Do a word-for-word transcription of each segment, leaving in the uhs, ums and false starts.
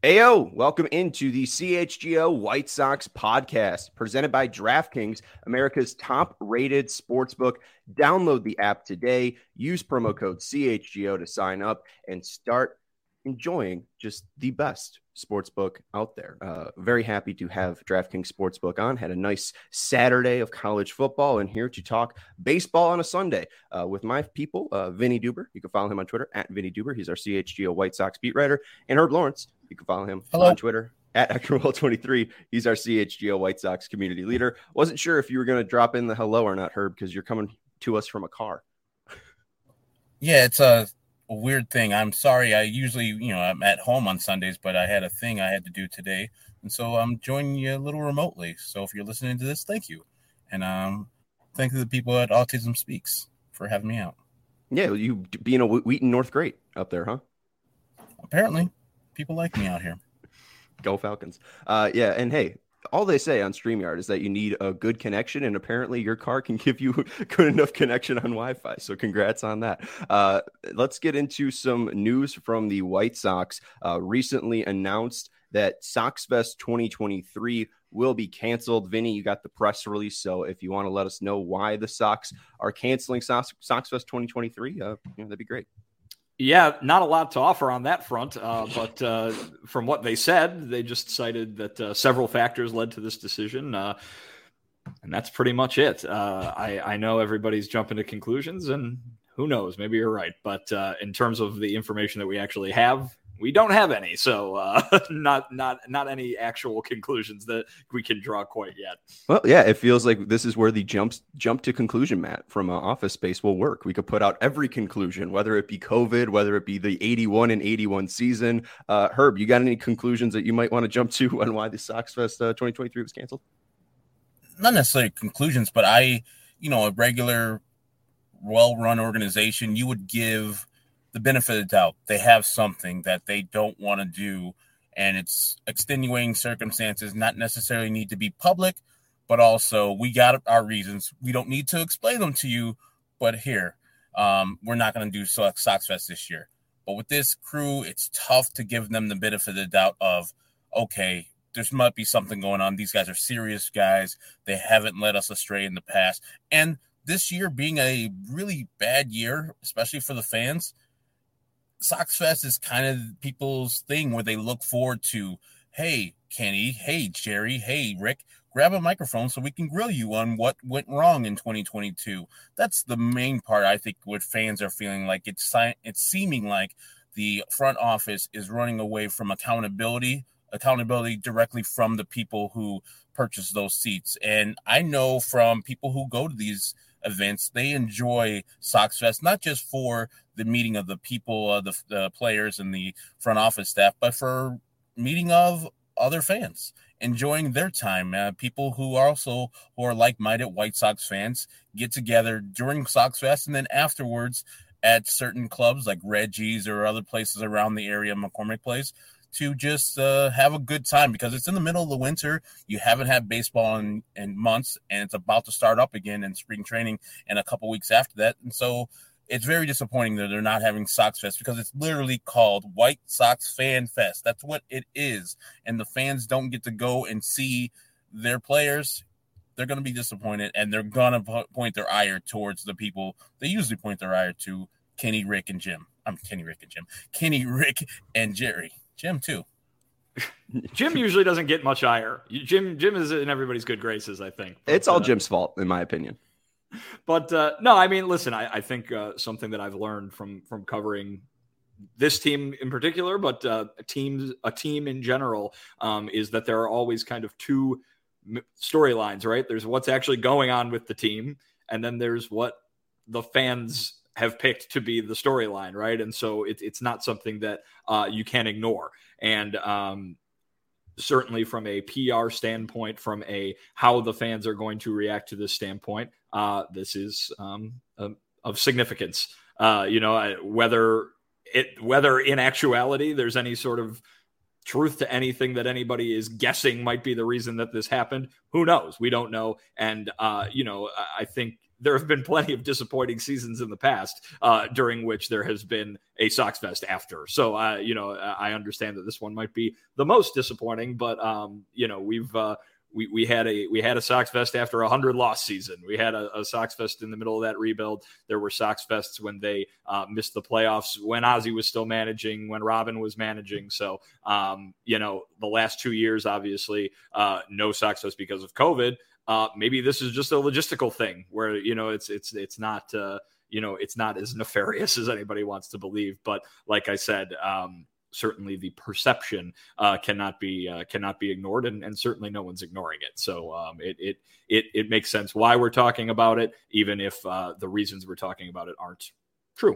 Ayo, welcome into the C H G O White Sox podcast presented by DraftKings, America's top-rated sportsbook. Download the app today, use promo code C H G O to sign up, and start enjoying just the best sportsbook out there. Uh, very happy to have DraftKings Sportsbook on. Had a nice Saturday of college football, and here to talk baseball on a Sunday uh, with my people, uh, Vinny Duber. You can follow him on Twitter at Vinny Duber. He's our C H G O White Sox beat writer, and Herb Lawrence. You can follow him Hello. on Twitter at Eckerwell twenty-three. He's our C H G O White Sox community leader. Wasn't sure if you were going to drop in the hello or not, Herb, because you're coming to us from a car. Yeah, it's a, a weird thing. I'm sorry. I usually, you know, I'm at home on Sundays, but I had a thing I had to do today. And so I'm joining you a little remotely. So if you're listening to this, thank you. And um, thank you to the people at Autism Speaks for having me out. Yeah, you being a Wheaton North great up there, huh? Apparently. People like me out here. Go Falcons. Uh, yeah, and hey, all they say on StreamYard is that you need a good connection, and apparently your car can give you good enough connection on Wi-Fi. So congrats on that. Uh, let's get into some news from the White Sox. Uh, recently announced that SoxFest twenty twenty-three will be canceled. Vinny, you got the press release, so if you want to let us know why the Sox are canceling Sox, SoxFest twenty twenty-three, uh, you know, that'd be great. Yeah, not a lot to offer on that front, uh, but uh, from what they said, they just cited that uh, several factors led to this decision, uh, and that's pretty much it. Uh, I, I know everybody's jumping to conclusions, and who knows, maybe you're right, but uh, in terms of the information that we actually have, we don't have any, so uh, not not not any actual conclusions that we can draw quite yet. Well, yeah, it feels like this is where the jumps jump to conclusion mat from uh, Office Space will work. We could put out every conclusion, whether it be COVID, whether it be the eighty-one and eighty-one season. Uh, Herb, you got any conclusions that you might want to jump to on why the SoxFest uh, twenty twenty-three was canceled? Not necessarily conclusions, but I, you know, a regular, well-run organization, you would give the benefit of the doubt. They have something that they don't want to do, and it's extenuating circumstances, not necessarily need to be public, but also we got our reasons. We don't need to explain them to you, but here, um, we're not going to do SoxFest this year. But with this crew, it's tough to give them the benefit of the doubt of, okay, there might be something going on. These guys are serious guys. They haven't led us astray in the past. And this year being a really bad year, especially for the fans, SoxFest is kind of people's thing where they look forward to, hey, Kenny, hey, Jerry, hey, Rick, grab a microphone so we can grill you on what went wrong in twenty twenty-two. That's the main part, I think, what fans are feeling like. It's, it's seeming like the front office is running away from accountability, accountability directly from the people who purchase those seats. And I know from people who go to these events, they enjoy SoxFest, not just for the meeting of the people, uh, the, the players and the front office staff, but for meeting of other fans, enjoying their time. Uh, people who are also who are like-minded White Sox fans get together during SoxFest and then afterwards at certain clubs like Reggie's or other places around the area, McCormick Place, to just uh, have a good time because it's in the middle of the winter. You haven't had baseball in, in months, and it's about to start up again in spring training in a couple weeks after that. And so it's very disappointing that they're not having SoxFest because it's literally called White Sox Fan Fest. That's what it is. And the fans don't get to go and see their players. They're going to be disappointed, and they're going to point their ire towards the people they usually point their ire to, Kenny, Rick, and Jim. I'm Kenny, Rick, and Jim. Kenny, Rick, and Jerry. Jim, too. Jim usually doesn't get much ire. Jim Jim is in everybody's good graces, I think. But, it's all uh, Jim's fault, in my opinion. But, uh, no, I mean, listen, I, I think uh, something that I've learned from from covering this team in particular, but uh, teams, a team in general, um, is that there are always kind of two storylines, right? There's what's actually going on with the team, and then there's what the fans have picked to be the storyline, right? And so it, it's not something that uh, you can ignore. And um, certainly from a P R standpoint, from a how the fans are going to react to this standpoint, uh, this is um, of, of significance. Uh, you know, whether it whether in actuality there's any sort of truth to anything that anybody is guessing might be the reason that this happened, who knows? We don't know. And, uh, you know, I think there have been plenty of disappointing seasons in the past uh, during which there has been a Sox Fest after. So, uh, you know, I understand that this one might be the most disappointing, but, um, you know, we've uh, we we had a we had a Sox Fest after a hundred loss season. We had a, a Sox Fest in the middle of that rebuild. There were Sox Fests when they uh, missed the playoffs, when Ozzie was still managing, when Robin was managing. So, um, you know, the last two years, obviously, uh, no Sox Fest because of COVID. Uh, maybe this is just a logistical thing where, you know, it's, it's, it's not, uh, you know, it's not as nefarious as anybody wants to believe. But like I said, um, certainly the perception uh, cannot be, uh, cannot be ignored, and, and certainly no one's ignoring it. So um, it, it, it, it makes sense why we're talking about it, even if uh, the reasons we're talking about it aren't true.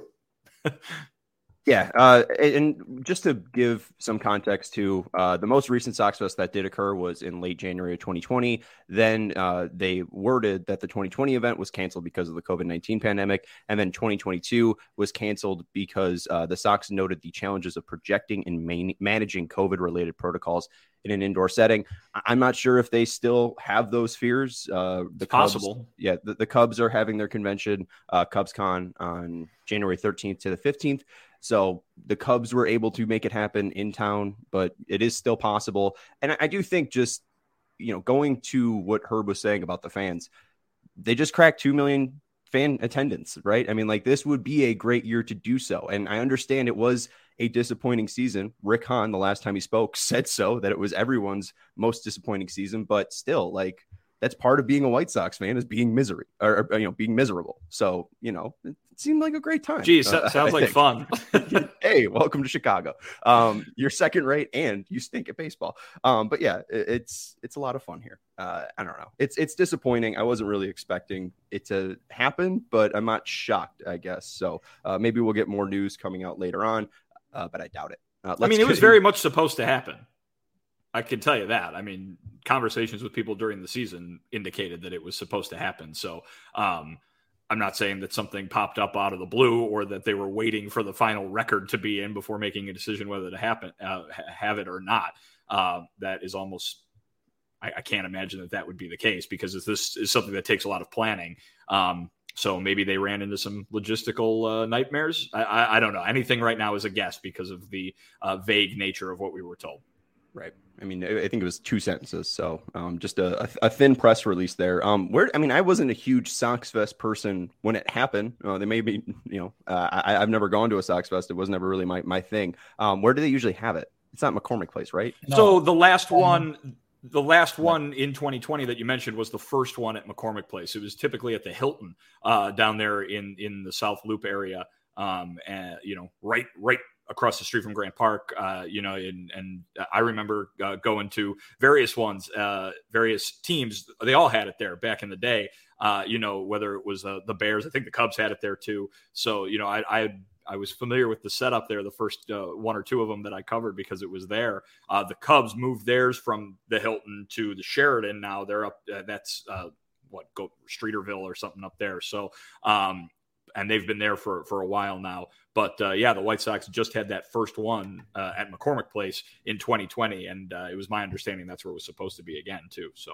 Yeah, uh, and just to give some context to uh, the most recent Sox Fest that did occur was in late January of twenty twenty. Then uh, they worded that the twenty twenty event was canceled because of the COVID nineteen pandemic, and then twenty twenty-two was canceled because uh, the Sox noted the challenges of projecting and man- managing COVID-related protocols in an indoor setting. I'm not sure if they still have those fears. Uh, the it's Cubs, possible. Yeah, the, the Cubs are having their convention, uh, CubsCon, on January thirteenth to the fifteenth. So the Cubs were able to make it happen in town, but it is still possible. And I, I do think just, you know, going to what Herb was saying about the fans, they just cracked two million fan attendance, right? I mean, like, this would be a great year to do so. And I understand it was a disappointing season. Rick Hahn, the last time he spoke, said so, that it was everyone's most disappointing season, but still, like, that's part of being a White Sox fan, is being misery or, or you know, being miserable. So, you know, it seemed like a great time. Geez, uh, sounds like fun. Hey, welcome to Chicago. Um, you're second rate and you stink at baseball. Um, but yeah, it, it's, it's a lot of fun here. Uh, I don't know. It's, it's disappointing. I wasn't really expecting it to happen, but I'm not shocked, I guess. So uh, maybe we'll get more news coming out later on, uh, but I doubt it. Uh, I mean, it was very much supposed to happen. I can tell you that. I mean, conversations with people during the season indicated that it was supposed to happen. So um, I'm not saying that something popped up out of the blue or that they were waiting for the final record to be in before making a decision whether to happen, uh, have it or not. Uh, that is almost, I, I can't imagine that that would be the case, because this is something that takes a lot of planning. Um, so maybe they ran into some logistical uh, nightmares. I, I, I don't know. Anything right now is a guess because of the uh, vague nature of what we were told. Right. I mean, I think it was two sentences. So um, just a, a thin press release there. Um, where I mean, I wasn't a huge Sox Fest person when it happened. Uh, they may be, you know, uh, I, I've never gone to a Sox Fest. It was never really my, my thing. Um, where do they usually have it? It's not McCormick Place, right? No. So the last one, the last one in twenty twenty that you mentioned was the first one at McCormick Place. It was typically at the Hilton uh, down there in, in the South Loop area. Um, and, you know, right, right. across the street from Grant Park, uh, you know, and, and I remember uh, going to various ones, uh, various teams. They all had it there back in the day, uh, you know, whether it was uh, the Bears, I think the Cubs had it there too. So, you know, I, I, I was familiar with the setup there, the first uh, one or two of them that I covered because it was there. Uh, the Cubs moved theirs from the Hilton to the Sheraton. Now they're up, uh, that's uh, what, go Streeterville or something up there. So, um, and they've been there for, for a while now. But, uh, yeah, the White Sox just had that first one uh, at McCormick Place in twenty twenty, and uh, it was my understanding that's where it was supposed to be again, too. So,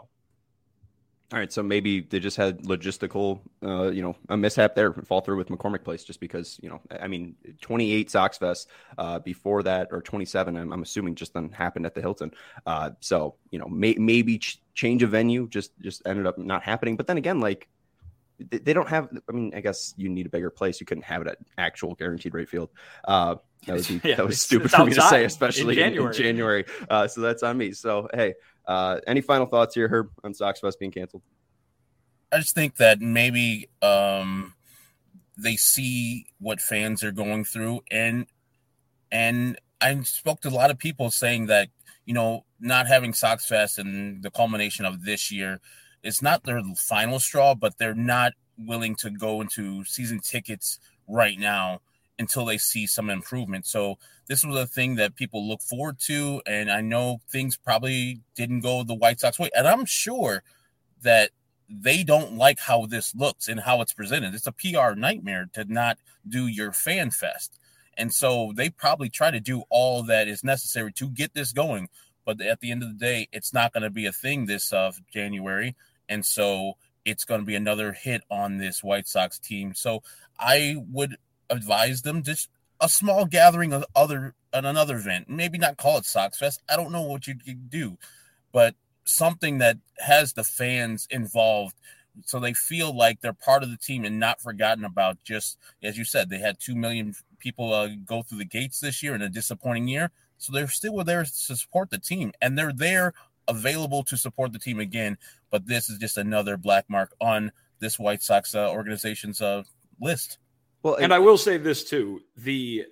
all right, so maybe they just had logistical, uh, you know, a mishap there, fall through with McCormick Place, just because, you know, I mean, twenty-eight Sox Fest uh, before that, or twenty-seven, I'm, I'm assuming just then happened at the Hilton. Uh, so, you know, may, maybe ch- change of venue just just ended up not happening. But then again, like, they don't have, I mean, I guess you need a bigger place. You couldn't have it at actual guaranteed rate field. Uh, that would be, yeah, that was stupid for me to say, especially in January. In, in January. Uh, so that's on me. So, hey, uh, any final thoughts here, Herb, on Sox Fest being canceled? I just think that maybe um, they see what fans are going through. And, and I spoke to a lot of people saying that, you know, not having Sox Fest and the culmination of this year, it's not their final straw, but they're not willing to go into season tickets right now until they see some improvement. So this was a thing that people look forward to, and I know things probably didn't go the White Sox way, and I'm sure that they don't like how this looks and how it's presented. It's a P R nightmare to not do your fan fest, and so they probably try to do all that is necessary to get this going, but at the end of the day, it's not going to be a thing this uh, January. And so it's going to be another hit on this White Sox team. So I would advise them just a small gathering of other at another event. Maybe not call it Sox Fest. I don't know what you could do, but something that has the fans involved so they feel like they're part of the team and not forgotten about. Just as you said, they had two million people uh, go through the gates this year in a disappointing year. So they're still there to support the team, and they're there available to support the team again. But this is just another black mark on this White Sox uh, organization's uh, list. Well, and I will say this too, the,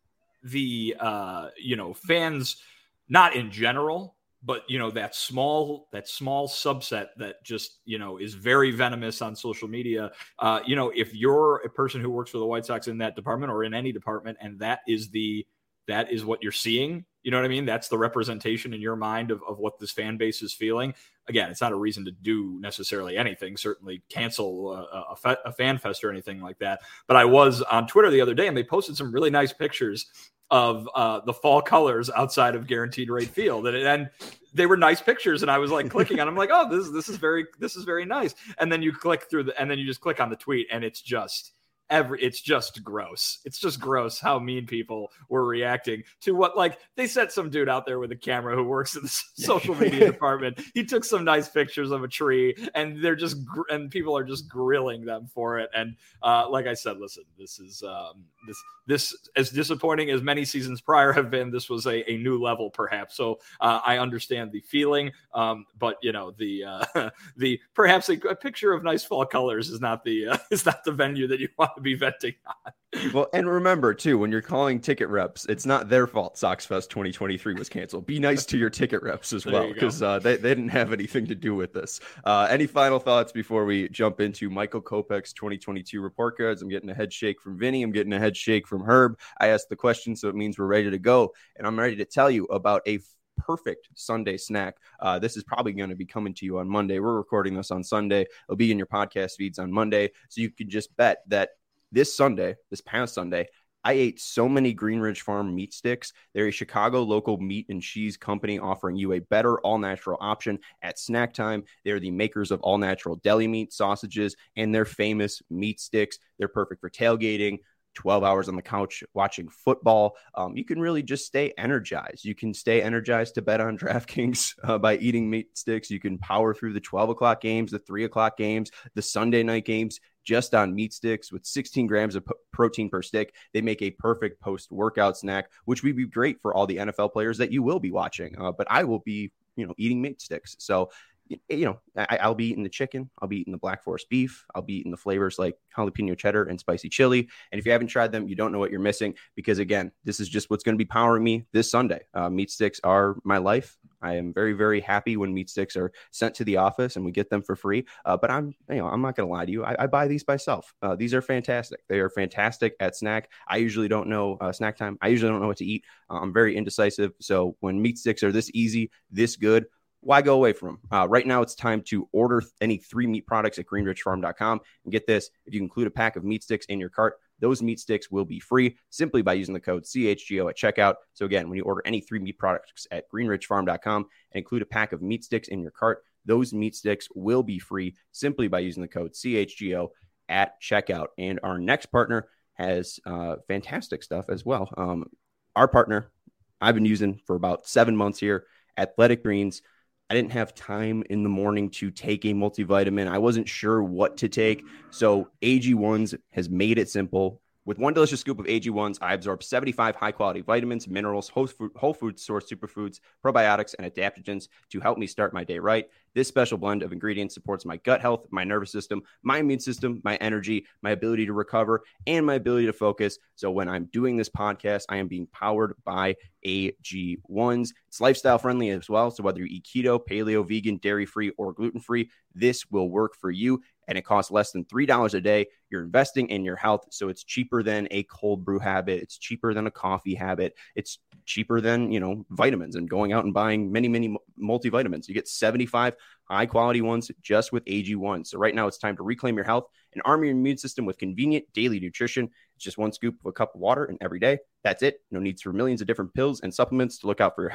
the, uh, you know, fans, not in general, but, you know, that small, that small subset that just, you know, is very venomous on social media. Uh, you know, if you're a person who works for the White Sox in that department or in any department, and that is the, that is what you're seeing, you know what I mean? That's the representation in your mind of, of what this fan base is feeling. Again, it's not a reason to do necessarily anything, certainly cancel a, a, fe- a fan fest or anything like that. But I was on Twitter the other day, and they posted some really nice pictures of uh, the fall colors outside of Guaranteed Rate Field. And, and they were nice pictures. And I was like clicking on them, like, oh, this, this is very, this is very nice. And then you click through the, and then you just click on the tweet, and it's just, Every it's just gross. It's just gross how mean people were reacting to what, like, they sent some dude out there with a camera who works in the social media department. He took some nice pictures of a tree, and they're just gr- and people are just grilling them for it. And uh, like I said, listen, this is um, this this as disappointing as many seasons prior have been. This was a, a new level, perhaps. So uh, I understand the feeling, um, but you know the uh, the perhaps a, a picture of nice fall colors is not the uh, is not the venue that you want to be venting on. Well, and remember too, when you're calling ticket reps, it's not their fault Sox Fest twenty twenty-three was canceled. Be nice to your ticket reps as well, because uh, they, they didn't have anything to do with this. Uh, any final thoughts before we jump into Michael Kopech's twenty twenty-two report cards? I'm getting a head shake from Vinny. I'm getting a head shake from Herb. I asked the question, so it means we're ready to go. And I'm ready to tell you about a perfect Sunday snack. Uh, this is probably going to be coming to you on Monday. We're recording this on Sunday. It'll be in your podcast feeds on Monday. So you can just bet that this Sunday, this past Sunday, I ate so many Greenridge Farm meat sticks. They're a Chicago local meat and cheese company offering you a better all-natural option at snack time. They're the makers of all-natural deli meat, sausages, and their famous meat sticks. They're perfect for tailgating, twelve hours on the couch watching football. Um, you can really just stay energized. You can stay energized to bet on DraftKings uh, by eating meat sticks. You can power through the twelve o'clock games, the three o'clock games, the Sunday night games, just on meat sticks with sixteen grams of p- protein per stick. They make a perfect post-workout snack, which would be great for all the N F L players that you will be watching. Uh, but I will be, you know, eating meat sticks. So, you know, I, I'll be eating the chicken. I'll be eating the Black Forest beef. I'll be eating the flavors like jalapeno cheddar and spicy chili. And if you haven't tried them, you don't know what you're missing, because again, this is just what's going to be powering me this Sunday. Uh, meat sticks are my life. I am very, very happy when meat sticks are sent to the office and we get them for free. Uh, but I'm, you know, I'm not going to lie to you. I, I buy these myself. Uh, these are fantastic. They are fantastic at snack. I usually don't know uh, snack time. I usually don't know what to eat. Uh, I'm very indecisive. So when meat sticks are this easy, this good, why go away from them? Uh, right now, it's time to order any three meat products at greenridge farm dot com. And get this, if you include a pack of meat sticks in your cart, those meat sticks will be free simply by using the code C H G O at checkout. So again, when you order any three meat products at greenridge farm dot com and include a pack of meat sticks in your cart, those meat sticks will be free simply by using the code C H G O at checkout. And our next partner has uh, fantastic stuff as well. Um, our partner I've been using for about seven months here, Athletic Greens. I didn't have time in the morning to take a multivitamin. I wasn't sure what to take. So A G ones has made it simple. With one delicious scoop of A G ones, I absorb seventy-five high-quality vitamins, minerals, whole food, whole food source superfoods, probiotics, and adaptogens to help me start my day right. This special blend of ingredients supports my gut health, my nervous system, my immune system, my energy, my ability to recover, and my ability to focus. So when I'm doing this podcast, I am being powered by A G ones. It's lifestyle friendly as well. So whether you eat keto, paleo, vegan, dairy-free, or gluten-free, this will work for you. And it costs less than three dollars a day. You're investing in your health, so it's cheaper than a cold brew habit. It's cheaper than a coffee habit. It's cheaper than, you know, vitamins and going out and buying many, many multivitamins. You get seventy-five high-quality ones just with A G one. So right now it's time to reclaim your health and arm your immune system with convenient daily nutrition. It's just one scoop of a cup of water and every day. That's it. No needs for millions of different pills and supplements to look out for your health.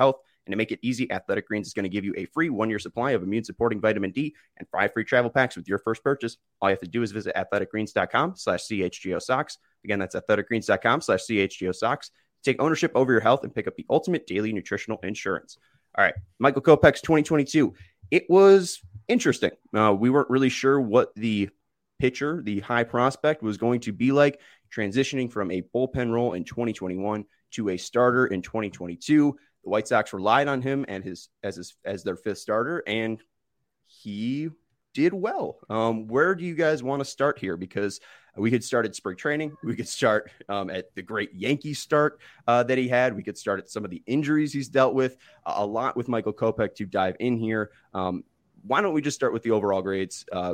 And to make it easy, Athletic Greens is going to give you a free one-year supply of immune-supporting vitamin D and five free travel packs with your first purchase. All you have to do is visit athleticgreens.com slash CHGO socks. Again, that's athleticgreens.com slash CHGO socks. Take ownership over your health and pick up the ultimate daily nutritional insurance. All right, Michael Kopech's twenty twenty-two. It was interesting. Uh, we weren't really sure what the pitcher, the high prospect, was going to be like, transitioning from a bullpen role in twenty twenty-one to a starter in twenty twenty-two. The White Sox relied on him and his as his as their fifth starter, and he did well. Um, where do you guys want to start here? Because we could start at spring training. We could start um, at the great Yankee start uh, that he had. We could start at some of the injuries he's dealt with. Uh, a lot with Michael Kopech to dive in here. Um, why don't we just start with the overall grades? Uh,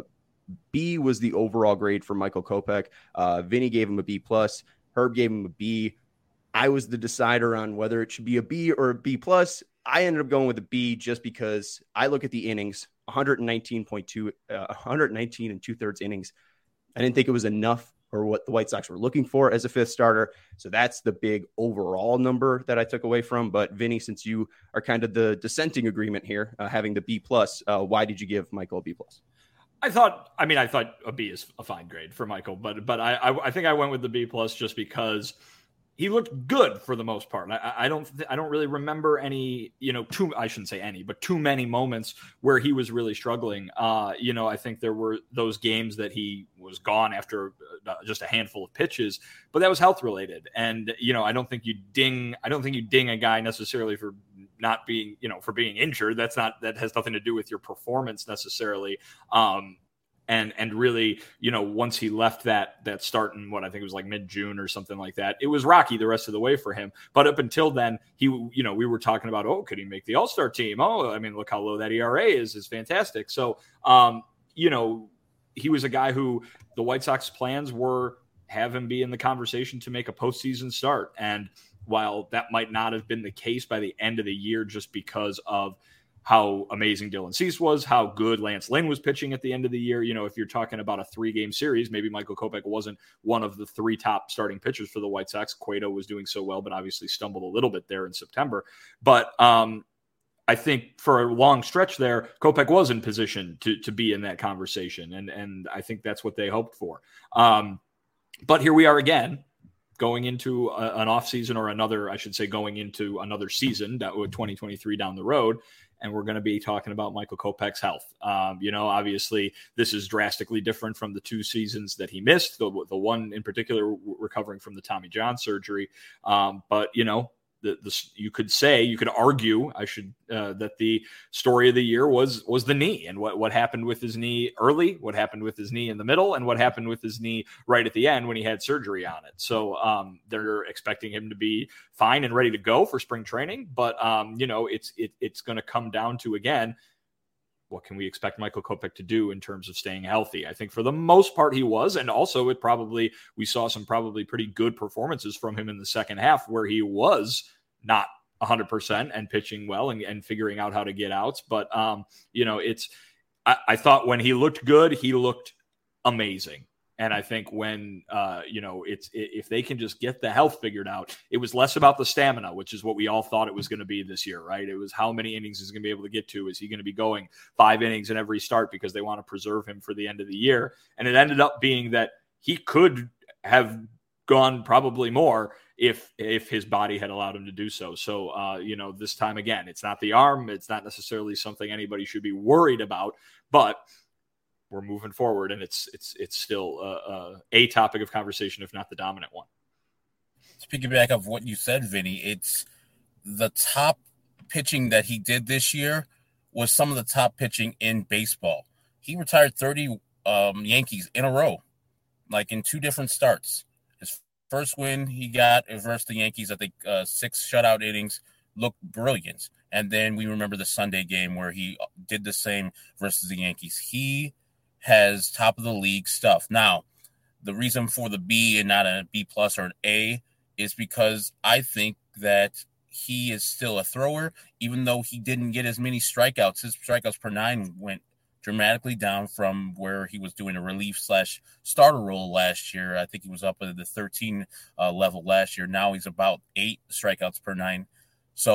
B was the overall grade for Michael Kopech. Uh, Vinny gave him a B plus. Herb gave him a B. I was the decider on whether it should be a B or a B plus. I ended up going with a B just because I look at the innings, one nineteen point two, uh, one nineteen and two thirds innings. I didn't think it was enough for what the White Sox were looking for as a fifth starter. So that's the big overall number that I took away from. But Vinny, since you are kind of the dissenting agreement here, uh, having the B plus, uh, why did you give Michael a B plus? I thought, I mean, I thought a B is a fine grade for Michael, but but I I, I think I went with the B plus just because he looked good for the most part. I, I don't I don't really remember any, you know, too I shouldn't say any, but too many moments where he was really struggling. Uh, you know, I think there were those games that he was gone after uh, just a handful of pitches, but that was health related. And you know, I don't think you ding I don't think you ding a guy necessarily for not being, you know, for being injured. That's not that has nothing to do with your performance necessarily. Um, And and really, you know, once he left that that start in what I think it was like mid-June or something like that, it was rocky the rest of the way for him. But up until then, he, you know, we were talking about, oh, could he make the All-Star team? Oh, I mean, look how low that E R A is, is fantastic. So, um, you know, he was a guy who the White Sox plans were have him be in the conversation to make a postseason start. And while that might not have been the case by the end of the year, just because of how amazing Dylan Cease was, how good Lance Lynn was pitching at the end of the year. You know, if you're talking about a three-game series, maybe Michael Kopech wasn't one of the three top starting pitchers for the White Sox. Cueto was doing so well, but obviously stumbled a little bit there in September. But um, I think for a long stretch there, Kopech was in position to to be in that conversation, and and I think that's what they hoped for. Um, but here we are again, going into a, an offseason or another, I should say, going into another season, that would twenty twenty-three down the road. And we're going to be talking about Michael Kopech's health. Um, you know, obviously, this is drastically different from the two seasons that he missed, the, the one in particular recovering from the Tommy John surgery. Um, but, you know, the, the, you could say, you could argue, I should, uh, that the story of the year was was the knee and what, what happened with his knee early, what happened with his knee in the middle, and what happened with his knee right at the end when he had surgery on it. So um, they're expecting him to be fine and ready to go for spring training. But, um, you know, it's it, it's going to come down to, again, what can we expect Michael Kopech to do in terms of staying healthy? I think for the most part he was, and also it probably, we saw some probably pretty good performances from him in the second half where he was not one hundred percent and pitching well and, and figuring out how to get outs. But, um, you know, it's, I, I thought when he looked good, he looked amazing. And I think when, uh, you know, it's if they can just get the health figured out, it was less about the stamina, which is what we all thought it was going to be this year, right? It was how many innings he's going to be able to get to. Is he going to be going five innings in every start because they want to preserve him for the end of the year? And it ended up being that he could have gone probably more if if his body had allowed him to do so. So, uh, you know, this time again, it's not the arm. It's not necessarily something anybody should be worried about, but we're moving forward, and it's it's it's still uh, uh, a topic of conversation, if not the dominant one. Speaking back of what you said, Vinny, it's the top pitching that he did this year was some of the top pitching in baseball. He retired thirty um, Yankees in a row, like in two different starts. His first win he got versus the Yankees, I think uh, six shutout innings, looked brilliant. And then we remember the Sunday game where he did the same versus the Yankees. He has top of the league stuff. Now, the reason for the B and not a B plus or an A is because I think that he is still a thrower, even though he didn't get as many strikeouts. His strikeouts per nine went dramatically down from where he was doing a relief slash starter role last year. I think he was up at the thirteen uh, level last year. Now he's about eight strikeouts per nine. So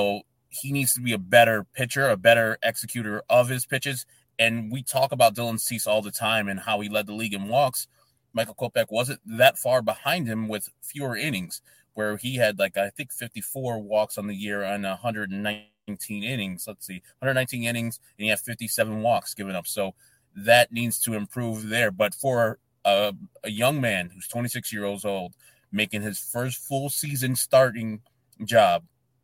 he needs to be a better pitcher, a better executor of his pitches. And we talk about Dylan Cease all the time and how he led the league in walks. Michael Kopech wasn't that far behind him with fewer innings, where he had, like, I think fifty-four walks on the year on one hundred nineteen innings. Let's see, one hundred nineteen innings, and he had fifty-seven walks given up. So that needs to improve there. But for a, a young man who's twenty-six years old, making his first full season starting job,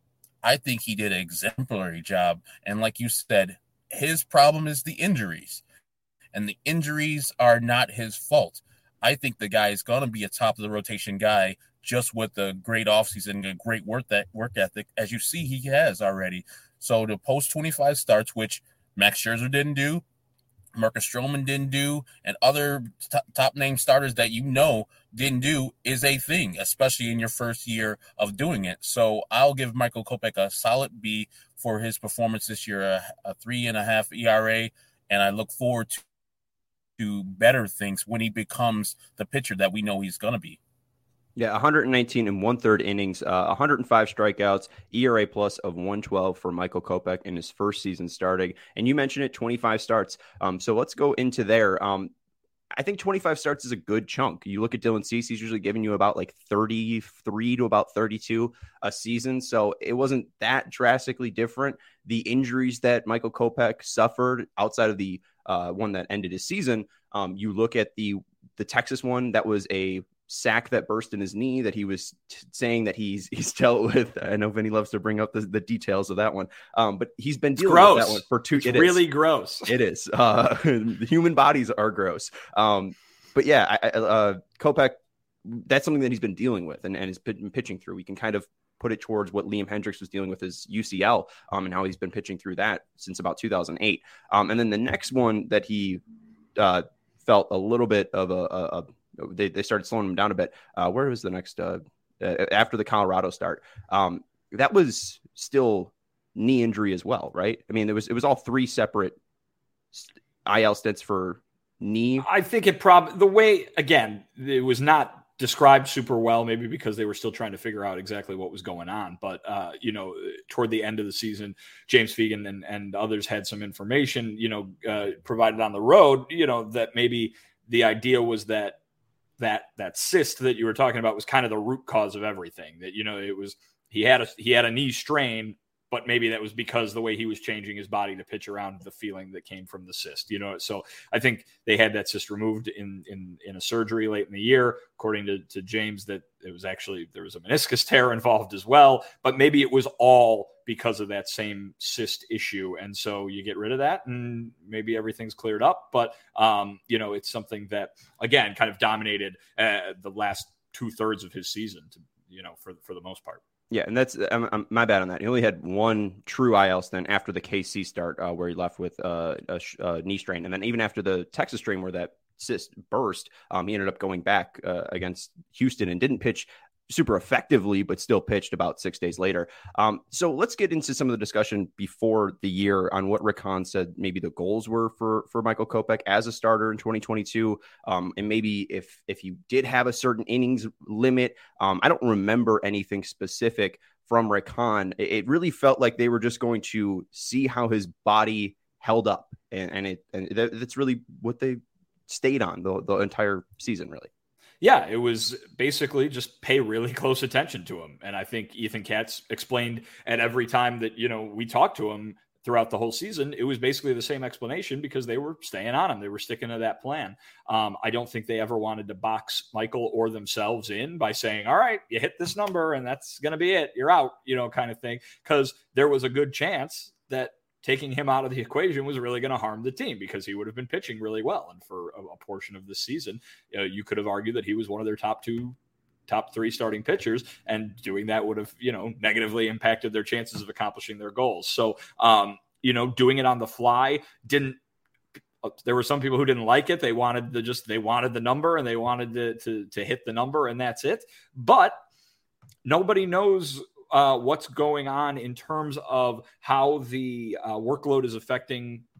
I think he did an exemplary job. And like you said, his problem is the injuries. And the injuries are not his fault. I think the guy is going to be a top of the rotation guy just with a great offseason and a great work, that work ethic, as you see he has already. So to post twenty-five starts, which Max Scherzer didn't do, Marcus Stroman didn't do, and other t- top name starters that you know didn't do, is a thing, especially in your first year of doing it. So I'll give Michael Kopech a solid B for his performance this year, a, a three and a half E R A, and I look forward to, to better things when he becomes the pitcher that we know he's going to be. Yeah, one hundred nineteen and one-third innings, uh, one hundred five strikeouts, E R A plus of one twelve for Michael Kopech in his first season starting. And you mentioned it, twenty-five starts. Um, so let's go into there. Um, I think twenty-five starts is a good chunk. You look at Dylan Cease, he's usually giving you about like thirty-three to about thirty-two a season. So it wasn't that drastically different. The injuries that Michael Kopech suffered outside of the uh, one that ended his season, um, you look at the the Texas one, that was a sack that burst in his knee that he was t- saying that he's he's dealt with. I know Vinny loves to bring up the, the details of that one, um, but he's been dealing with that one for two. It's it really is. gross. It is. Uh, the human bodies are gross. Um, but yeah, I, uh, Kopech, that's something that he's been dealing with and, and has been pitching through. We can kind of put it towards what Liam Hendriks was dealing with his U C L um, and how he's been pitching through that since about two thousand eight. Um, and then the next one that he uh, felt a little bit of a, a, a They they started slowing him down a bit. Uh, where was the next uh, uh, after the Colorado start? Um, that was still knee injury as well, right? I mean, it was it was all three separate I L stints for knee. I think it probably the way again it was not described super well, maybe because they were still trying to figure out exactly what was going on. But uh, you know, toward the end of the season, James Fegan and and others had some information, you know, uh, provided on the road, you know, that maybe the idea was that. that that cyst that you were talking about was kind of the root cause of everything. That, you know, it was, he had a, he had a knee strain, but maybe that was because the way he was changing his body to pitch around the feeling that came from the cyst, you know? So I think they had that cyst removed in, in, in a surgery late in the year, according to, to James, that it was actually, there was a meniscus tear involved as well, but maybe it was all because of that same cyst issue. And so you get rid of that and maybe everything's cleared up. But, um, you know, it's something that, again, kind of dominated uh, the last two thirds of his season, to, you know, for, for the most part. Yeah, and that's I'm, I'm, my bad on that. He only had one true I L stint after the K C start uh, where he left with uh, a, a knee strain. And then even after the Texas strain where that cyst burst, um, he ended up going back uh, against Houston and didn't pitch super effectively, but still pitched about six days later. Um, so let's get into some of the discussion before the year on what Rick Hahn said maybe the goals were for, for Michael Kopech as a starter in twenty twenty-two. Um, and maybe if, if you did have a certain innings limit, um, I don't remember anything specific from Rick Hahn. It, it really felt like they were just going to see how his body held up. And, and it, and that, that's really what they stayed on the, the entire season, really. Yeah, it was basically just pay really close attention to him. And I think Ethan Katz explained at every time that, you know, we talked to him throughout the whole season, it was basically the same explanation because they were staying on him. They were sticking to that plan. Um, I don't think they ever wanted to box Michael or themselves in by saying, all right, you hit this number and that's going to be it. You're out, you know, kind of thing. Because there was a good chance that taking him out of the equation was really going to harm the team because he would have been pitching really well. And for a, a portion of this season, you know, you could have argued that he was one of their top two, top three starting pitchers, and doing that would have, you know, negatively impacted their chances of accomplishing their goals. So, um, you know, doing it on the fly didn't, there were some people who didn't like it. They wanted to just, they wanted the number and they wanted to, to, to hit the number and that's it. But nobody knows Uh, what's going on in terms of how the uh, workload is affecting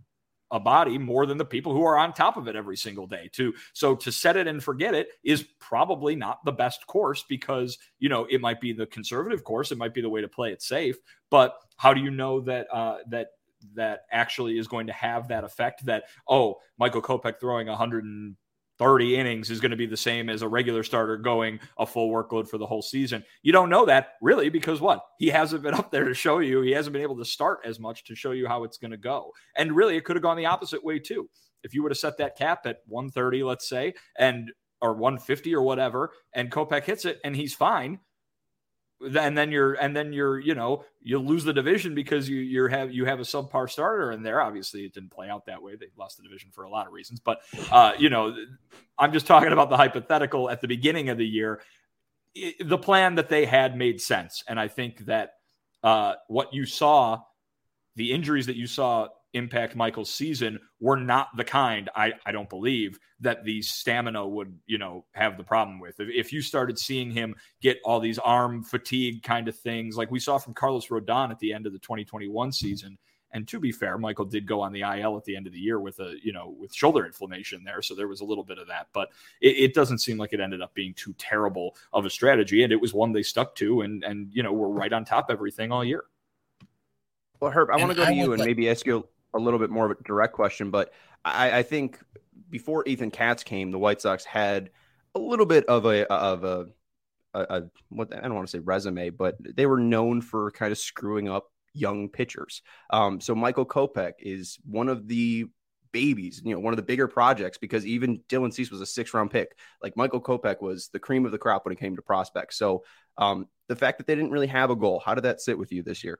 a body more than the people who are on top of it every single day too. So to set it and forget it is probably not the best course, because, you know, it might be the conservative course. It might be the way to play it safe, but how do you know that, uh, that, that actually is going to have that effect that, oh, Michael Kopech throwing one hundred thirty innings is going to be the same as a regular starter going a full workload for the whole season? You don't know that really, because what? He hasn't been up there to show you. He hasn't been able to start as much to show you how it's going to go. And really, it could have gone the opposite way too. If you would have set that cap at one thirty, let's say, and or one fifty or whatever, and Kopech hits it and he's fine, and then you're and then you're you know you'll lose the division because you you have you have a subpar starter in there. Obviously, it didn't play out that way. They lost the division for a lot of reasons, but uh, you know, I'm just talking about the hypothetical at the beginning of the year. It, the plan that they had made sense, and I think that uh, what you saw, the injuries that you saw impact Michael's season, were not the kind, I, I don't believe, that the stamina would, you know, have the problem with. If, if you started seeing him get all these arm fatigue kind of things, like we saw from Carlos Rodon at the end of the twenty twenty-one season, and to be fair, Michael did go on the I L at the end of the year with a, you know, with shoulder inflammation there. So there was a little bit of that, but it, it doesn't seem like it ended up being too terrible of a strategy. And it was one they stuck to, and, and, you know, we're right on top of everything all year. Well, Herb, I want to go to you and like- maybe ask you a little bit more of a direct question, but I, I think before Ethan Katz came, the White Sox had a little bit of a of a, a, a what I don't want to say resume, but they were known for kind of screwing up young pitchers. Um, so Michael Kopech is one of the babies, you know, one of the bigger projects, because even Dylan Cease was a six round pick. Like Michael Kopech was the cream of the crop when it came to prospects. So um, the fact that they didn't really have a goal, how did that sit with you this year?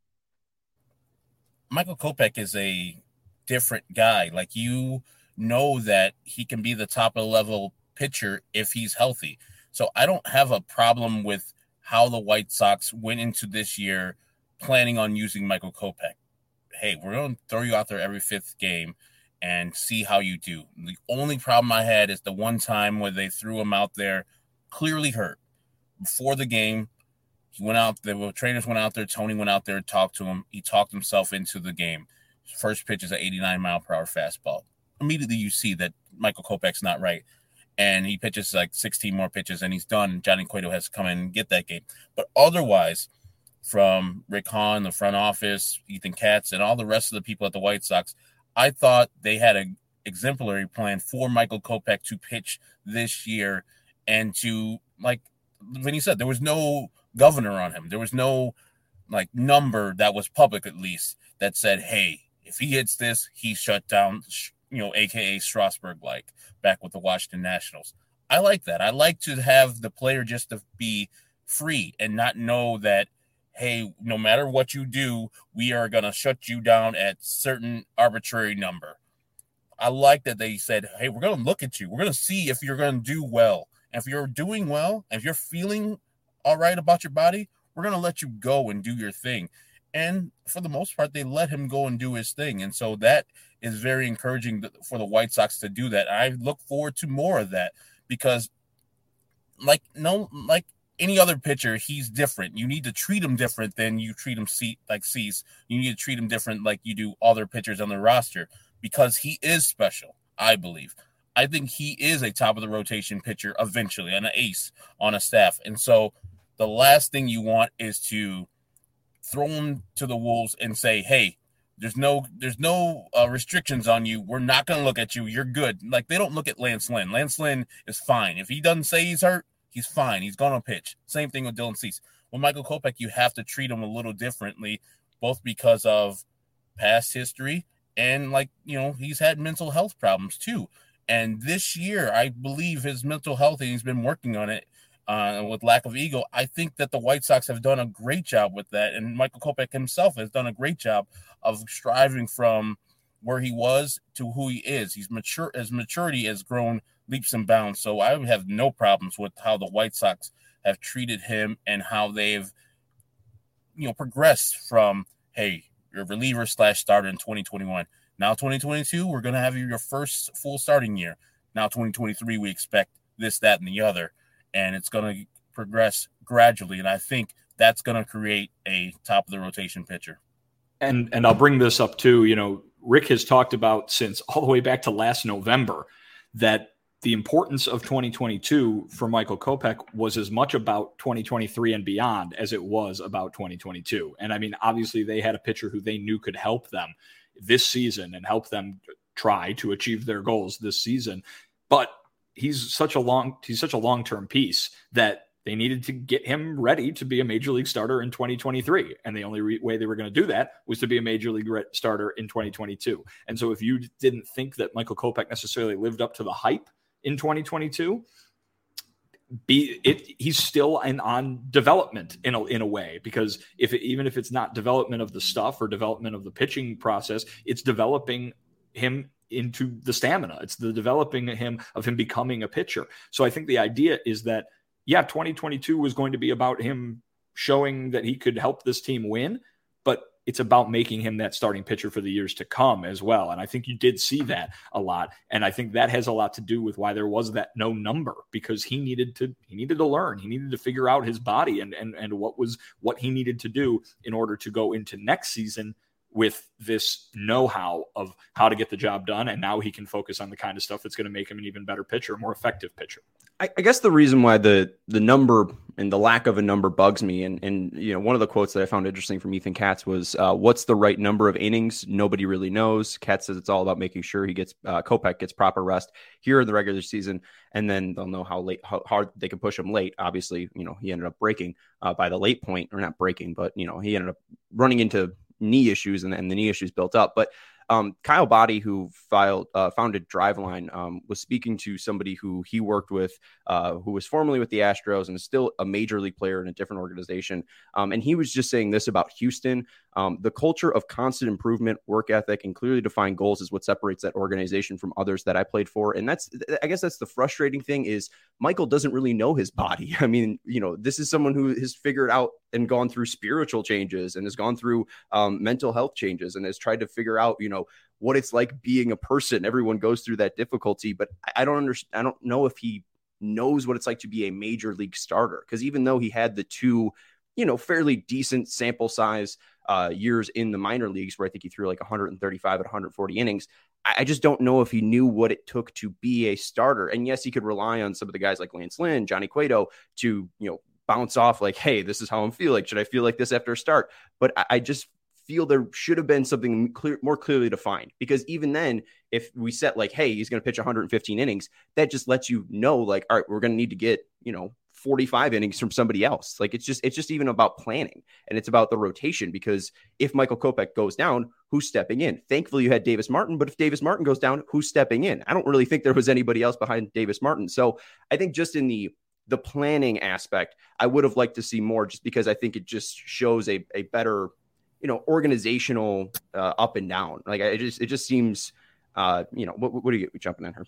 Michael Kopech is a different guy. Like, you know that he can be the top of the level pitcher if he's healthy. So I don't have a problem with how the White Sox went into this year planning on using Michael Kopech. Hey, we're going to throw you out there every fifth game and see how you do. The only problem I had is the one time where they threw him out there clearly hurt. Before the game, he went out, the trainers went out there, Tony went out there and talked to him. He talked himself into the game. His first pitch is an eighty-nine mile per hour fastball. Immediately you see that Michael Kopech's not right. And he pitches like sixteen more pitches and he's done. Johnny Cueto has to come in and get that game. But otherwise, from Rick Hahn, the front office, Ethan Katz, and all the rest of the people at the White Sox, I thought they had an exemplary plan for Michael Kopech to pitch this year and to, like Vinny said, there was no governor on him. There was no like number that was public, at least, that said, hey, if he hits this, he's shut down, you know, A K A Strasburg, like back with the Washington Nationals. I like that. I like to have the player just to be free and not know that, hey, no matter what you do, we are going to shut you down at certain arbitrary number. I like that they said, hey, we're going to look at you. We're going to see if you're going to do well. And if you're doing well, if you're feeling all right about your body, we're going to let you go and do your thing. And for the most part, they let him go and do his thing. And so that is very encouraging for the White Sox to do that. I look forward to more of that because like, no, like any other pitcher, he's different. You need to treat him different than you treat him like Cease. You need to treat him different like you do other pitchers on the roster because he is special, I believe. I think he is a top of the rotation pitcher eventually, and an ace on a staff. And so the last thing you want is to throw him to the wolves and say, hey, there's no there's no uh, restrictions on you. We're not going to look at you. You're good. Like, they don't look at Lance Lynn. Lance Lynn is fine. If he doesn't say he's hurt, he's fine. He's going to pitch. Same thing with Dylan Cease. With Michael Kopech, you have to treat him a little differently, both because of past history and, like, you know, he's had mental health problems too. And this year, I believe his mental health, and he's been working on it uh, with lack of ego. I think that the White Sox have done a great job with that. And Michael Kopech himself has done a great job of striving from where he was to who he is. He's mature. His maturity has grown leaps and bounds. So I have no problems with how the White Sox have treated him and how they've, you know, progressed from, hey, you're a reliever slash starter in twenty twenty-one. Now twenty twenty-two, we're going to have your first full starting year. Now twenty twenty-three, we expect this, that, and the other. And it's going to progress gradually. And I think that's going to create a top-of-the-rotation pitcher. And and I'll bring this up too, you know, Rick has talked about since all the way back to last November that the importance of twenty twenty-two for Michael Kopech was as much about twenty twenty-three and beyond as it was about twenty twenty-two. And I mean, obviously they had a pitcher who they knew could help them this season and help them try to achieve their goals this season. But he's such a long, he's such a long-term piece that they needed to get him ready to be a major league starter in twenty twenty-three. And the only re- way they were going to do that was to be a major league re- starter in twenty twenty-two. And so if you didn't think that Michael Kopech necessarily lived up to the hype in twenty twenty-two, be it he's still in, on development in a, in a way, because if it, even if it's not development of the stuff or development of the pitching process, it's developing him into the stamina. It's the developing him of him becoming a pitcher. So I think the idea is that, yeah, twenty twenty-two was going to be about him showing that he could help this team win, but it's about making him that starting pitcher for the years to come as well. And I think you did see that a lot. And I think that has a lot to do with why there was that no number, because he needed to, he needed to learn, he needed to figure out his body and, and, and what was, what he needed to do in order to go into next season with this know-how of how to get the job done. And now he can focus on the kind of stuff that's going to make him an even better pitcher, a more effective pitcher. I, I guess the reason why the the number and the lack of a number bugs me, and and you know, one of the quotes that I found interesting from Ethan Katz was, uh, "What's the right number of innings? Nobody really knows." Katz says it's all about making sure he gets uh, Kopech gets proper rest here in the regular season, and then they'll know how late, how hard they can push him late. Obviously, you know, he ended up breaking uh, by the late point, or not breaking, but you know, he ended up running into knee issues, and, and the knee issues built up, but. Um, Kyle Boddy, who filed, uh, founded Driveline, um, was speaking to somebody who he worked with, uh, who was formerly with the Astros and is still a major league player in a different organization. Um, and he was just saying this about Houston. Um, the culture of constant improvement, work ethic, and clearly defined goals is what separates that organization from others that I played for. And that's, I guess that's the frustrating thing, is Michael doesn't really know his body. I mean, you know, this is someone who has figured out and gone through spiritual changes and has gone through um, mental health changes and has tried to figure out, you know, what it's like being a person. Everyone goes through that difficulty, but I don't understand. I don't know if he knows what it's like to be a major league starter, because even though he had the two, you know, fairly decent sample size uh, years in the minor leagues, where I think he threw like one hundred thirty-five at one hundred forty innings, I, I just don't know if he knew what it took to be a starter. And yes, he could rely on some of the guys like Lance Lynn, Johnny Cueto to, you know, bounce off like, hey, this is how I'm feeling. Should I feel like this after a start? But I, I just feel there should have been something clear, more clearly defined, because even then, if we set like, hey, he's going to pitch one hundred fifteen innings, that just lets you know, like, all right, we're going to need to get, you know, forty-five innings from somebody else. Like, it's just, it's just even about planning, and it's about the rotation, because if Michael Kopech goes down, who's stepping in? Thankfully you had Davis Martin, but if Davis Martin goes down, who's stepping in? I don't really think there was anybody else behind Davis Martin. So I think just in the, the planning aspect, I would have liked to see more, just because I think it just shows a, a better, you know, organizational uh, up and down. Like, it just, it just seems, uh, you know, what, what do you get jumping in here?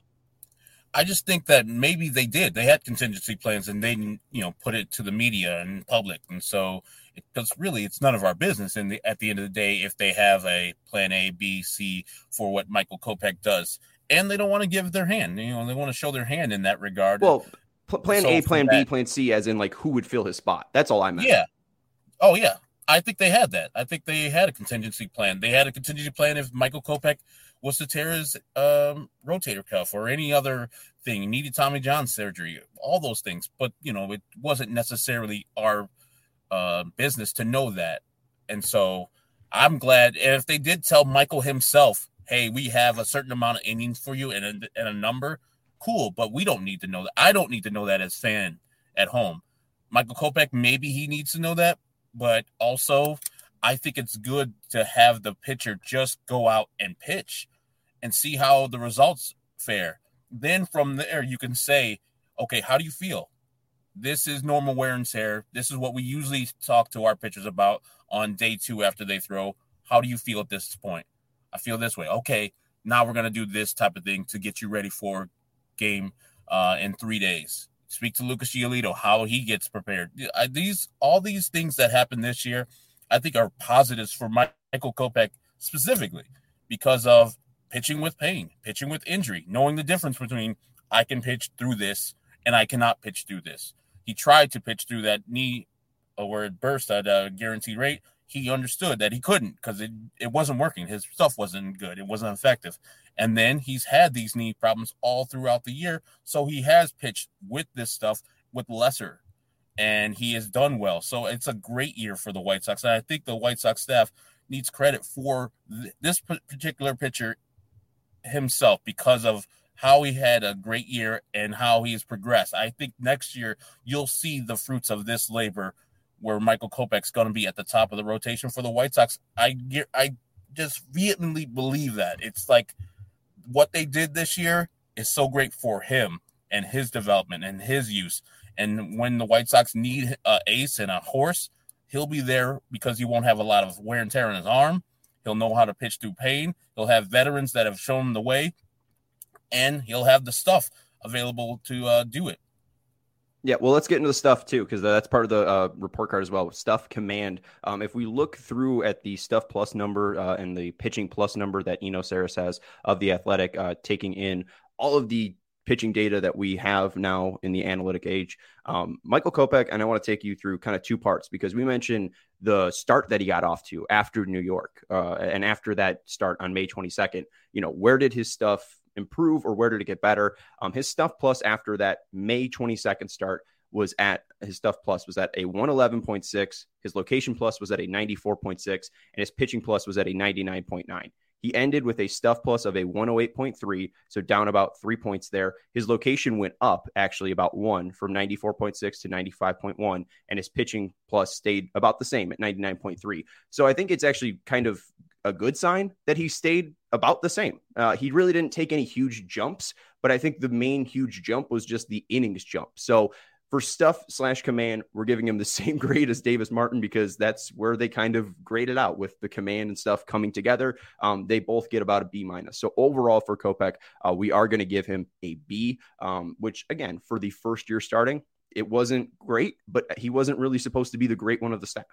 I just think that maybe they did. They had contingency plans, and they, you know, put it to the media and public. And so, because really, it's none of our business. And the, at the end of the day, if they have a plan A, B, C for what Michael Kopech does, and they don't want to give their hand, you know, they want to show their hand in that regard. Well, pl- plan so A, plan that, B, plan C, as in like who would fill his spot. That's all I meant. Yeah. Oh, yeah. I think they had that. I think they had a contingency plan. They had a contingency plan if Michael Kopech was to tear his um, rotator cuff or any other thing, needed Tommy John surgery, all those things. But, you know, it wasn't necessarily our uh, business to know that. And so I'm glad. And if they did tell Michael himself, hey, we have a certain amount of innings for you and a, and a number, cool. But we don't need to know that. I don't need to know that as fan at home. Michael Kopech, maybe he needs to know that. But also, I think it's good to have the pitcher just go out and pitch and see how the results fare. Then from there, you can say, okay, how do you feel? This is normal wear and tear. This is what we usually talk to our pitchers about on day two after they throw. How do you feel at this point? I feel this way. Okay, now we're going to do this type of thing to get you ready for game uh, in three days. Speak to Lucas Giolito, how he gets prepared. These, all these things that happened this year, I think are positives for Michael Kopech specifically, because of pitching with pain, pitching with injury, knowing the difference between I can pitch through this and I cannot pitch through this. He tried to pitch through that knee where it burst at a guaranteed rate. he understood that he couldn't because it, it wasn't working. His stuff wasn't good. It wasn't effective. And then he's had these knee problems all throughout the year. So he has pitched with this stuff with lesser, and he has done well. So it's a great year for the White Sox. And I think the White Sox staff needs credit for th- this particular pitcher himself because of how he had a great year and how he has progressed. I think next year you'll see the fruits of this labor where Michael Kopech's going to be at the top of the rotation for the White Sox. I get, I just vehemently believe that. It's like what they did this year is so great for him and his development and his use. And when the White Sox need an ace and a horse, he'll be there because he won't have a lot of wear and tear on his arm. He'll know how to pitch through pain. He'll have veterans that have shown him the way. And he'll have the stuff available to uh, do it. Yeah, well, let's get into the stuff, too, because that's part of the uh, report card as well. Stuff command. Um, if we look through at the stuff plus number uh, and the pitching plus number that Eno Saris has of the Athletic, uh, taking in all of the pitching data that we have now in the analytic age, um, Michael Kopech, and I want to take you through kind of two parts because we mentioned the start that he got off to after New York uh, and after that start on May twenty-second. You know, where did his stuff improve or where did it get better? Um, his stuff plus after that May twenty-second start was at his stuff plus was at a one eleven point six. His location plus was at a ninety-four point six and his pitching plus was at a ninety-nine point nine. He ended with a stuff plus of a one oh eight point three, so down about three points there. His location went up actually about one from ninety-four point six to ninety-five point one, and his pitching plus stayed about the same at ninety-nine point three. So I think it's actually kind of a good sign that he stayed about the same. Uh, he really didn't take any huge jumps, but I think the main huge jump was just the innings jump. So for stuff slash command, we're giving him the same grade as Davis Martin because that's where they kind of graded out with the command and stuff coming together. Um, they both get about a B minus. So overall for Kopech, uh, we are going to give him a B, um, which again, for the first year starting, it wasn't great, but he wasn't really supposed to be the great one of the staff.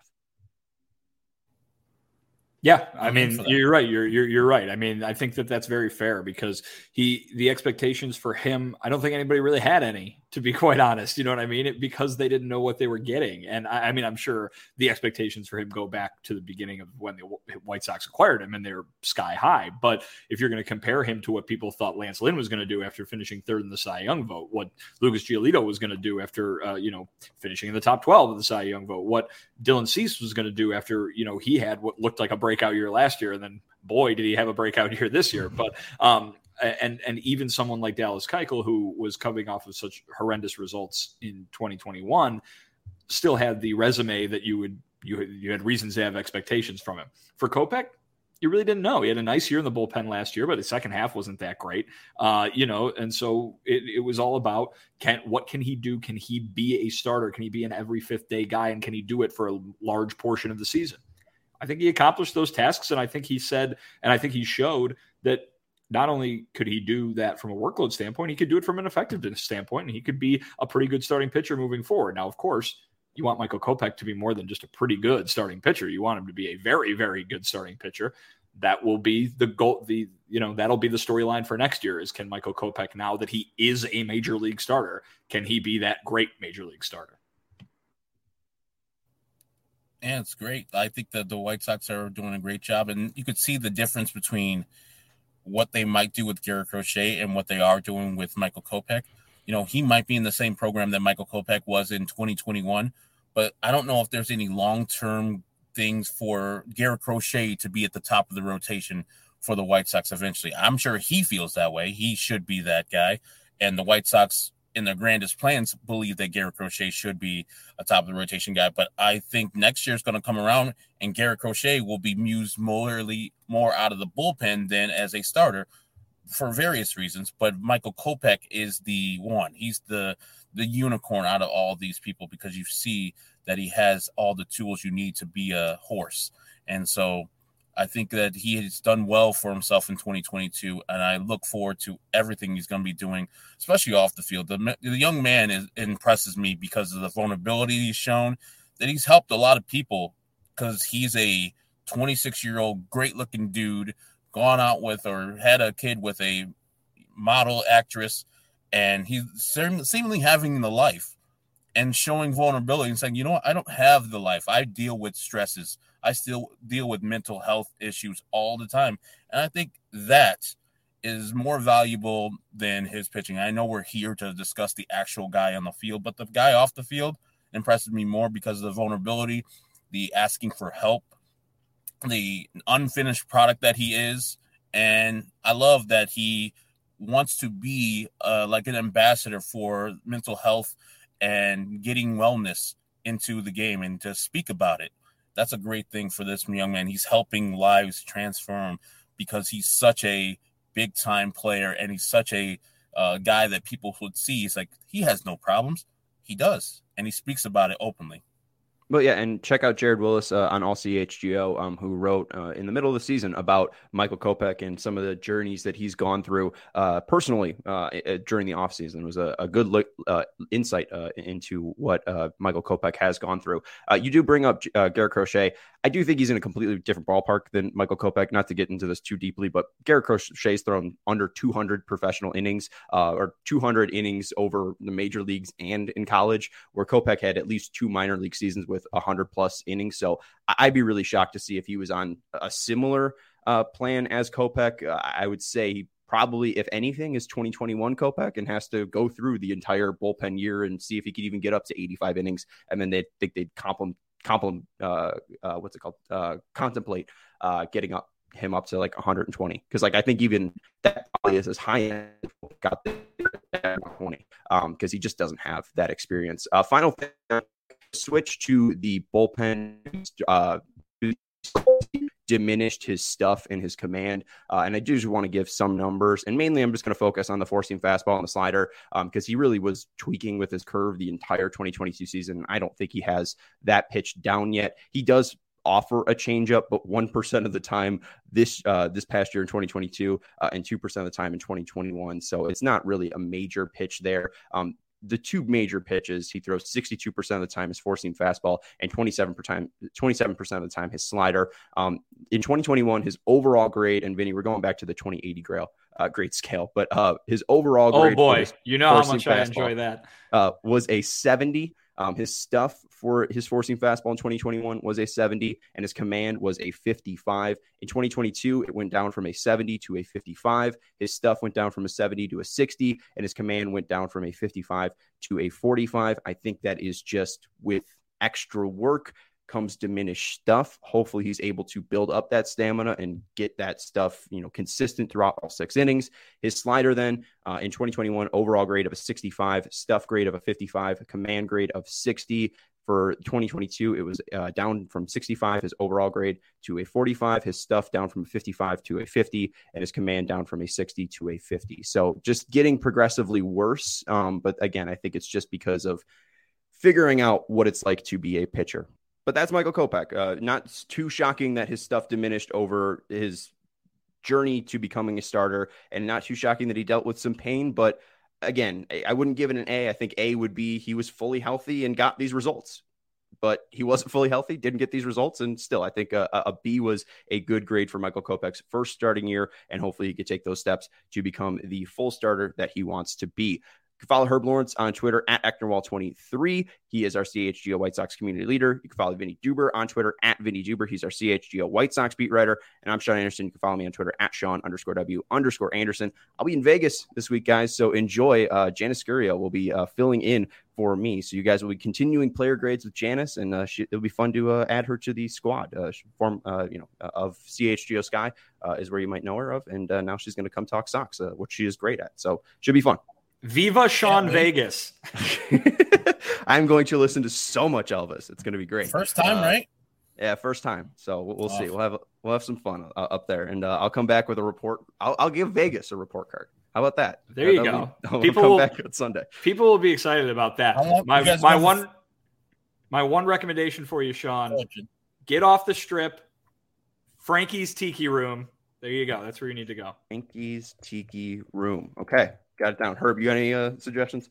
Yeah, I mean, you're right. You're, you're you're right. I mean, I think that that's very fair because he the expectations for him, I don't think anybody really had any, to be quite honest. You know what I mean? It, because they didn't know what they were getting. And I, I mean, I'm sure the expectations for him go back to the beginning of when the White Sox acquired him and they're sky high. But if you're going to compare him to what people thought Lance Lynn was going to do after finishing third in the Cy Young vote, what Lucas Giolito was going to do after, uh, you know, finishing in the top twelve of the Cy Young vote, what Dylan Cease was going to do after, you know, he had what looked like a breakout year last year. And then, boy, did he have a breakout year this year. But, um, and and even someone like Dallas Keuchel, who was coming off of such horrendous results in twenty twenty-one, still had the resume that you would you had, you had reasons to have expectations from him. For Kopech, you really didn't know. He had a nice year in the bullpen last year, but the second half wasn't that great, uh, you know. And so it, it was all about can what can he do? Can he be a starter? Can he be an every fifth day guy? And can he do it for a large portion of the season? I think he accomplished those tasks, and I think he said, and I think he showed that. Not only could he do that from a workload standpoint, he could do it from an effectiveness standpoint, and he could be a pretty good starting pitcher moving forward. Now, of course, you want Michael Kopech to be more than just a pretty good starting pitcher. You want him to be a very, very good starting pitcher. That will be the goal. The you know that'll be the storyline for next year. Is can Michael Kopech, now that he is a major league starter, can he be that great major league starter? Yeah, it's great. I think that the White Sox are doing a great job, and you could see the difference between what they might do with Garrett Crochet and what they are doing with Michael Kopech. You know, he might be in the same program that Michael Kopech was in twenty twenty-one, but I don't know if there's any long-term things for Garrett Crochet to be at the top of the rotation for the White Sox eventually. I'm sure he feels that way. He should be that guy. And the White Sox, in their grandest plans, believe that Garrett Crochet should be a top of the rotation guy. But I think next year is going to come around and Garrett Crochet will be used morally more out of the bullpen than as a starter for various reasons. But Michael Kopech is the one. He's the the unicorn out of all these people because you see that he has all the tools you need to be a horse. And so I think that he has done well for himself in twenty twenty-two, and I look forward to everything he's going to be doing, especially off the field. The, the young man is, impresses me because of the vulnerability he's shown, that he's helped a lot of people because he's a twenty-six-year-old great-looking dude, gone out with or had a kid with a model actress, and he's seemingly having the life and showing vulnerability and saying, you know what, I don't have the life. I deal with stresses. I still deal with mental health issues all the time. And I think that is more valuable than his pitching. I know we're here to discuss the actual guy on the field, but the guy off the field impresses me more because of the vulnerability, the asking for help, the unfinished product that he is. And I love that he wants to be uh, like an ambassador for mental health and getting wellness into the game and to speak about it. That's a great thing for this young man. He's helping lives transform because he's such a big time player and he's such a uh, guy that people would see. He's like, he has no problems. He does. And he speaks about it openly. But yeah, and check out Jared Willis uh, on All C H G O, um, who wrote uh, in the middle of the season about Michael Kopech and some of the journeys that he's gone through uh, personally uh, during the offseason. It was a, a good look, uh, insight uh, into what uh, Michael Kopech has gone through. Uh, you do bring up uh, Garrett Crochet. I do think he's in a completely different ballpark than Michael Kopech, not to get into this too deeply, but Garrett Crochet's thrown under two hundred professional innings uh, or two hundred innings over the major leagues and in college, where Kopech had at least two minor league seasons with one hundred plus innings. So I'd be really shocked to see if he was on a similar uh, plan as Kopech. Uh, I would say he probably, if anything, is twenty twenty-one Kopech and has to go through the entire bullpen year and see if he could even get up to eighty-five innings. And then they think they'd compliment, compliment uh, uh, what's it called? Uh, contemplate uh, getting up him up to like one hundred twenty. Cause like, I think even that probably is as high as got there at twenty um, cause he just doesn't have that experience. Uh, final thing, switch to the bullpen, uh, diminished his stuff and his command. Uh, and I do just want to give some numbers, and mainly I'm just going to focus on the four-seam fastball and the slider because um, he really was tweaking with his curve the entire twenty twenty-two season. I don't think he has that pitch down yet. He does offer a changeup, but one percent of the time this uh, this past year in twenty twenty-two uh, and two percent of the time in twenty twenty-one. So it's not really a major pitch there. Um, the two major pitches, he throws sixty-two percent of the time his four-seam fastball and twenty-seven percent, twenty-seven percent of the time his slider. Um, in twenty twenty-one, his overall grade, and Vinny, we're going back to the twenty eighty grade, uh, grade scale, but uh, his overall grade. Oh boy, you know how much I enjoy that. Uh, was a seventy. Um, his stuff for his four-seam fastball in twenty twenty-one was a seventy, and his command was a fifty-five. In twenty twenty-two, it went down from a seventy to a fifty-five. His stuff went down from a seventy to a sixty, and his command went down from a fifty-five to a forty-five. I think that is just with extra work comes diminished stuff. Hopefully he's able to build up that stamina and get that stuff, you know, consistent throughout all six innings. His slider then uh, in twenty twenty-one, overall grade of a sixty-five, stuff grade of a fifty-five, command grade of sixty. For twenty twenty-two, it was uh, down from sixty-five, his overall grade, to a forty-five, his stuff down from a fifty-five to a fifty, and his command down from a sixty to a fifty. So just getting progressively worse. Um, but again, I think it's just because of figuring out what it's like to be a pitcher. But that's Michael Kopech. Uh, not too shocking that his stuff diminished over his journey to becoming a starter, and not too shocking that he dealt with some pain. But again, I wouldn't give it an A. I think A would be he was fully healthy and got these results. But he wasn't fully healthy, didn't get these results, and still, I think a, a B was a good grade for Michael Kopech's first starting year, and hopefully he could take those steps to become the full starter that he wants to be. You can follow Herb Lawrence on Twitter at Ecknerwall twenty-three. He is our C H G O White Sox community leader. You can follow Vinny Duber on Twitter at Vinny Duber. He's our C H G O White Sox beat writer. And I'm Sean Anderson. You can follow me on Twitter at Sean underscore W underscore Anderson. I'll be in Vegas this week, guys. So enjoy. Uh, Janice Scurio will be uh, filling in for me. So you guys will be continuing player grades with Janice, and uh, she, it'll be fun to uh, add her to the squad. Uh, form, uh, you know, uh, of C H G O Sky uh, is where you might know her of. And uh, now she's going to come talk Sox, uh, which she is great at. So should be fun. Viva Sean yeah, Vegas. I'm going to listen to so much Elvis. It's going to be great. First time, uh, right? Yeah, first time. So we'll, we'll awesome. see. We'll have we'll have some fun uh, up there, and uh, I'll come back with a report. I'll, I'll give Vegas a report card. How about that? There you That'll go. Be, I'll people come will, back on Sunday. People will be excited about that. My my one my one recommendation for you, Sean: get off the strip. Frankie's Tiki Room. There you go. That's where you need to go. Frankie's Tiki Room. Okay. Got it down. Herb, you got any uh, suggestions?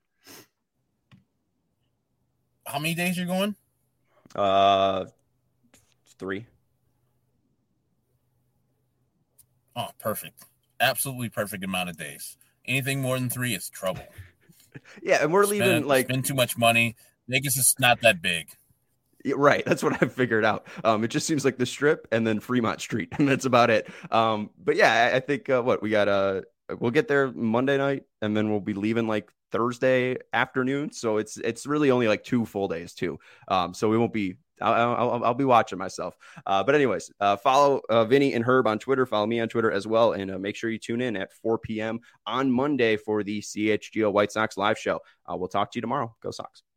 How many days you're going? Uh, three. Oh, perfect. Absolutely perfect amount of days. Anything more than three is trouble. Yeah, and we're spend, leaving like spend too much money. Vegas is not that big. Right. That's what I've figured out. Um, it just seems like the Strip and then Fremont Street, and that's about it. Um, but yeah, I, I think uh, what we got, uh, we'll get there Monday night, and then we'll be leaving like Thursday afternoon. So it's it's really only like two full days too. Um, so we won't be. I'll, I'll, I'll be watching myself. Uh, but anyways, uh, follow uh, Vinny and Herb on Twitter. Follow me on Twitter as well, and uh, make sure you tune in at four p.m. on Monday for the C H G O White Sox live show. Uh, we'll talk to you tomorrow. Go Sox.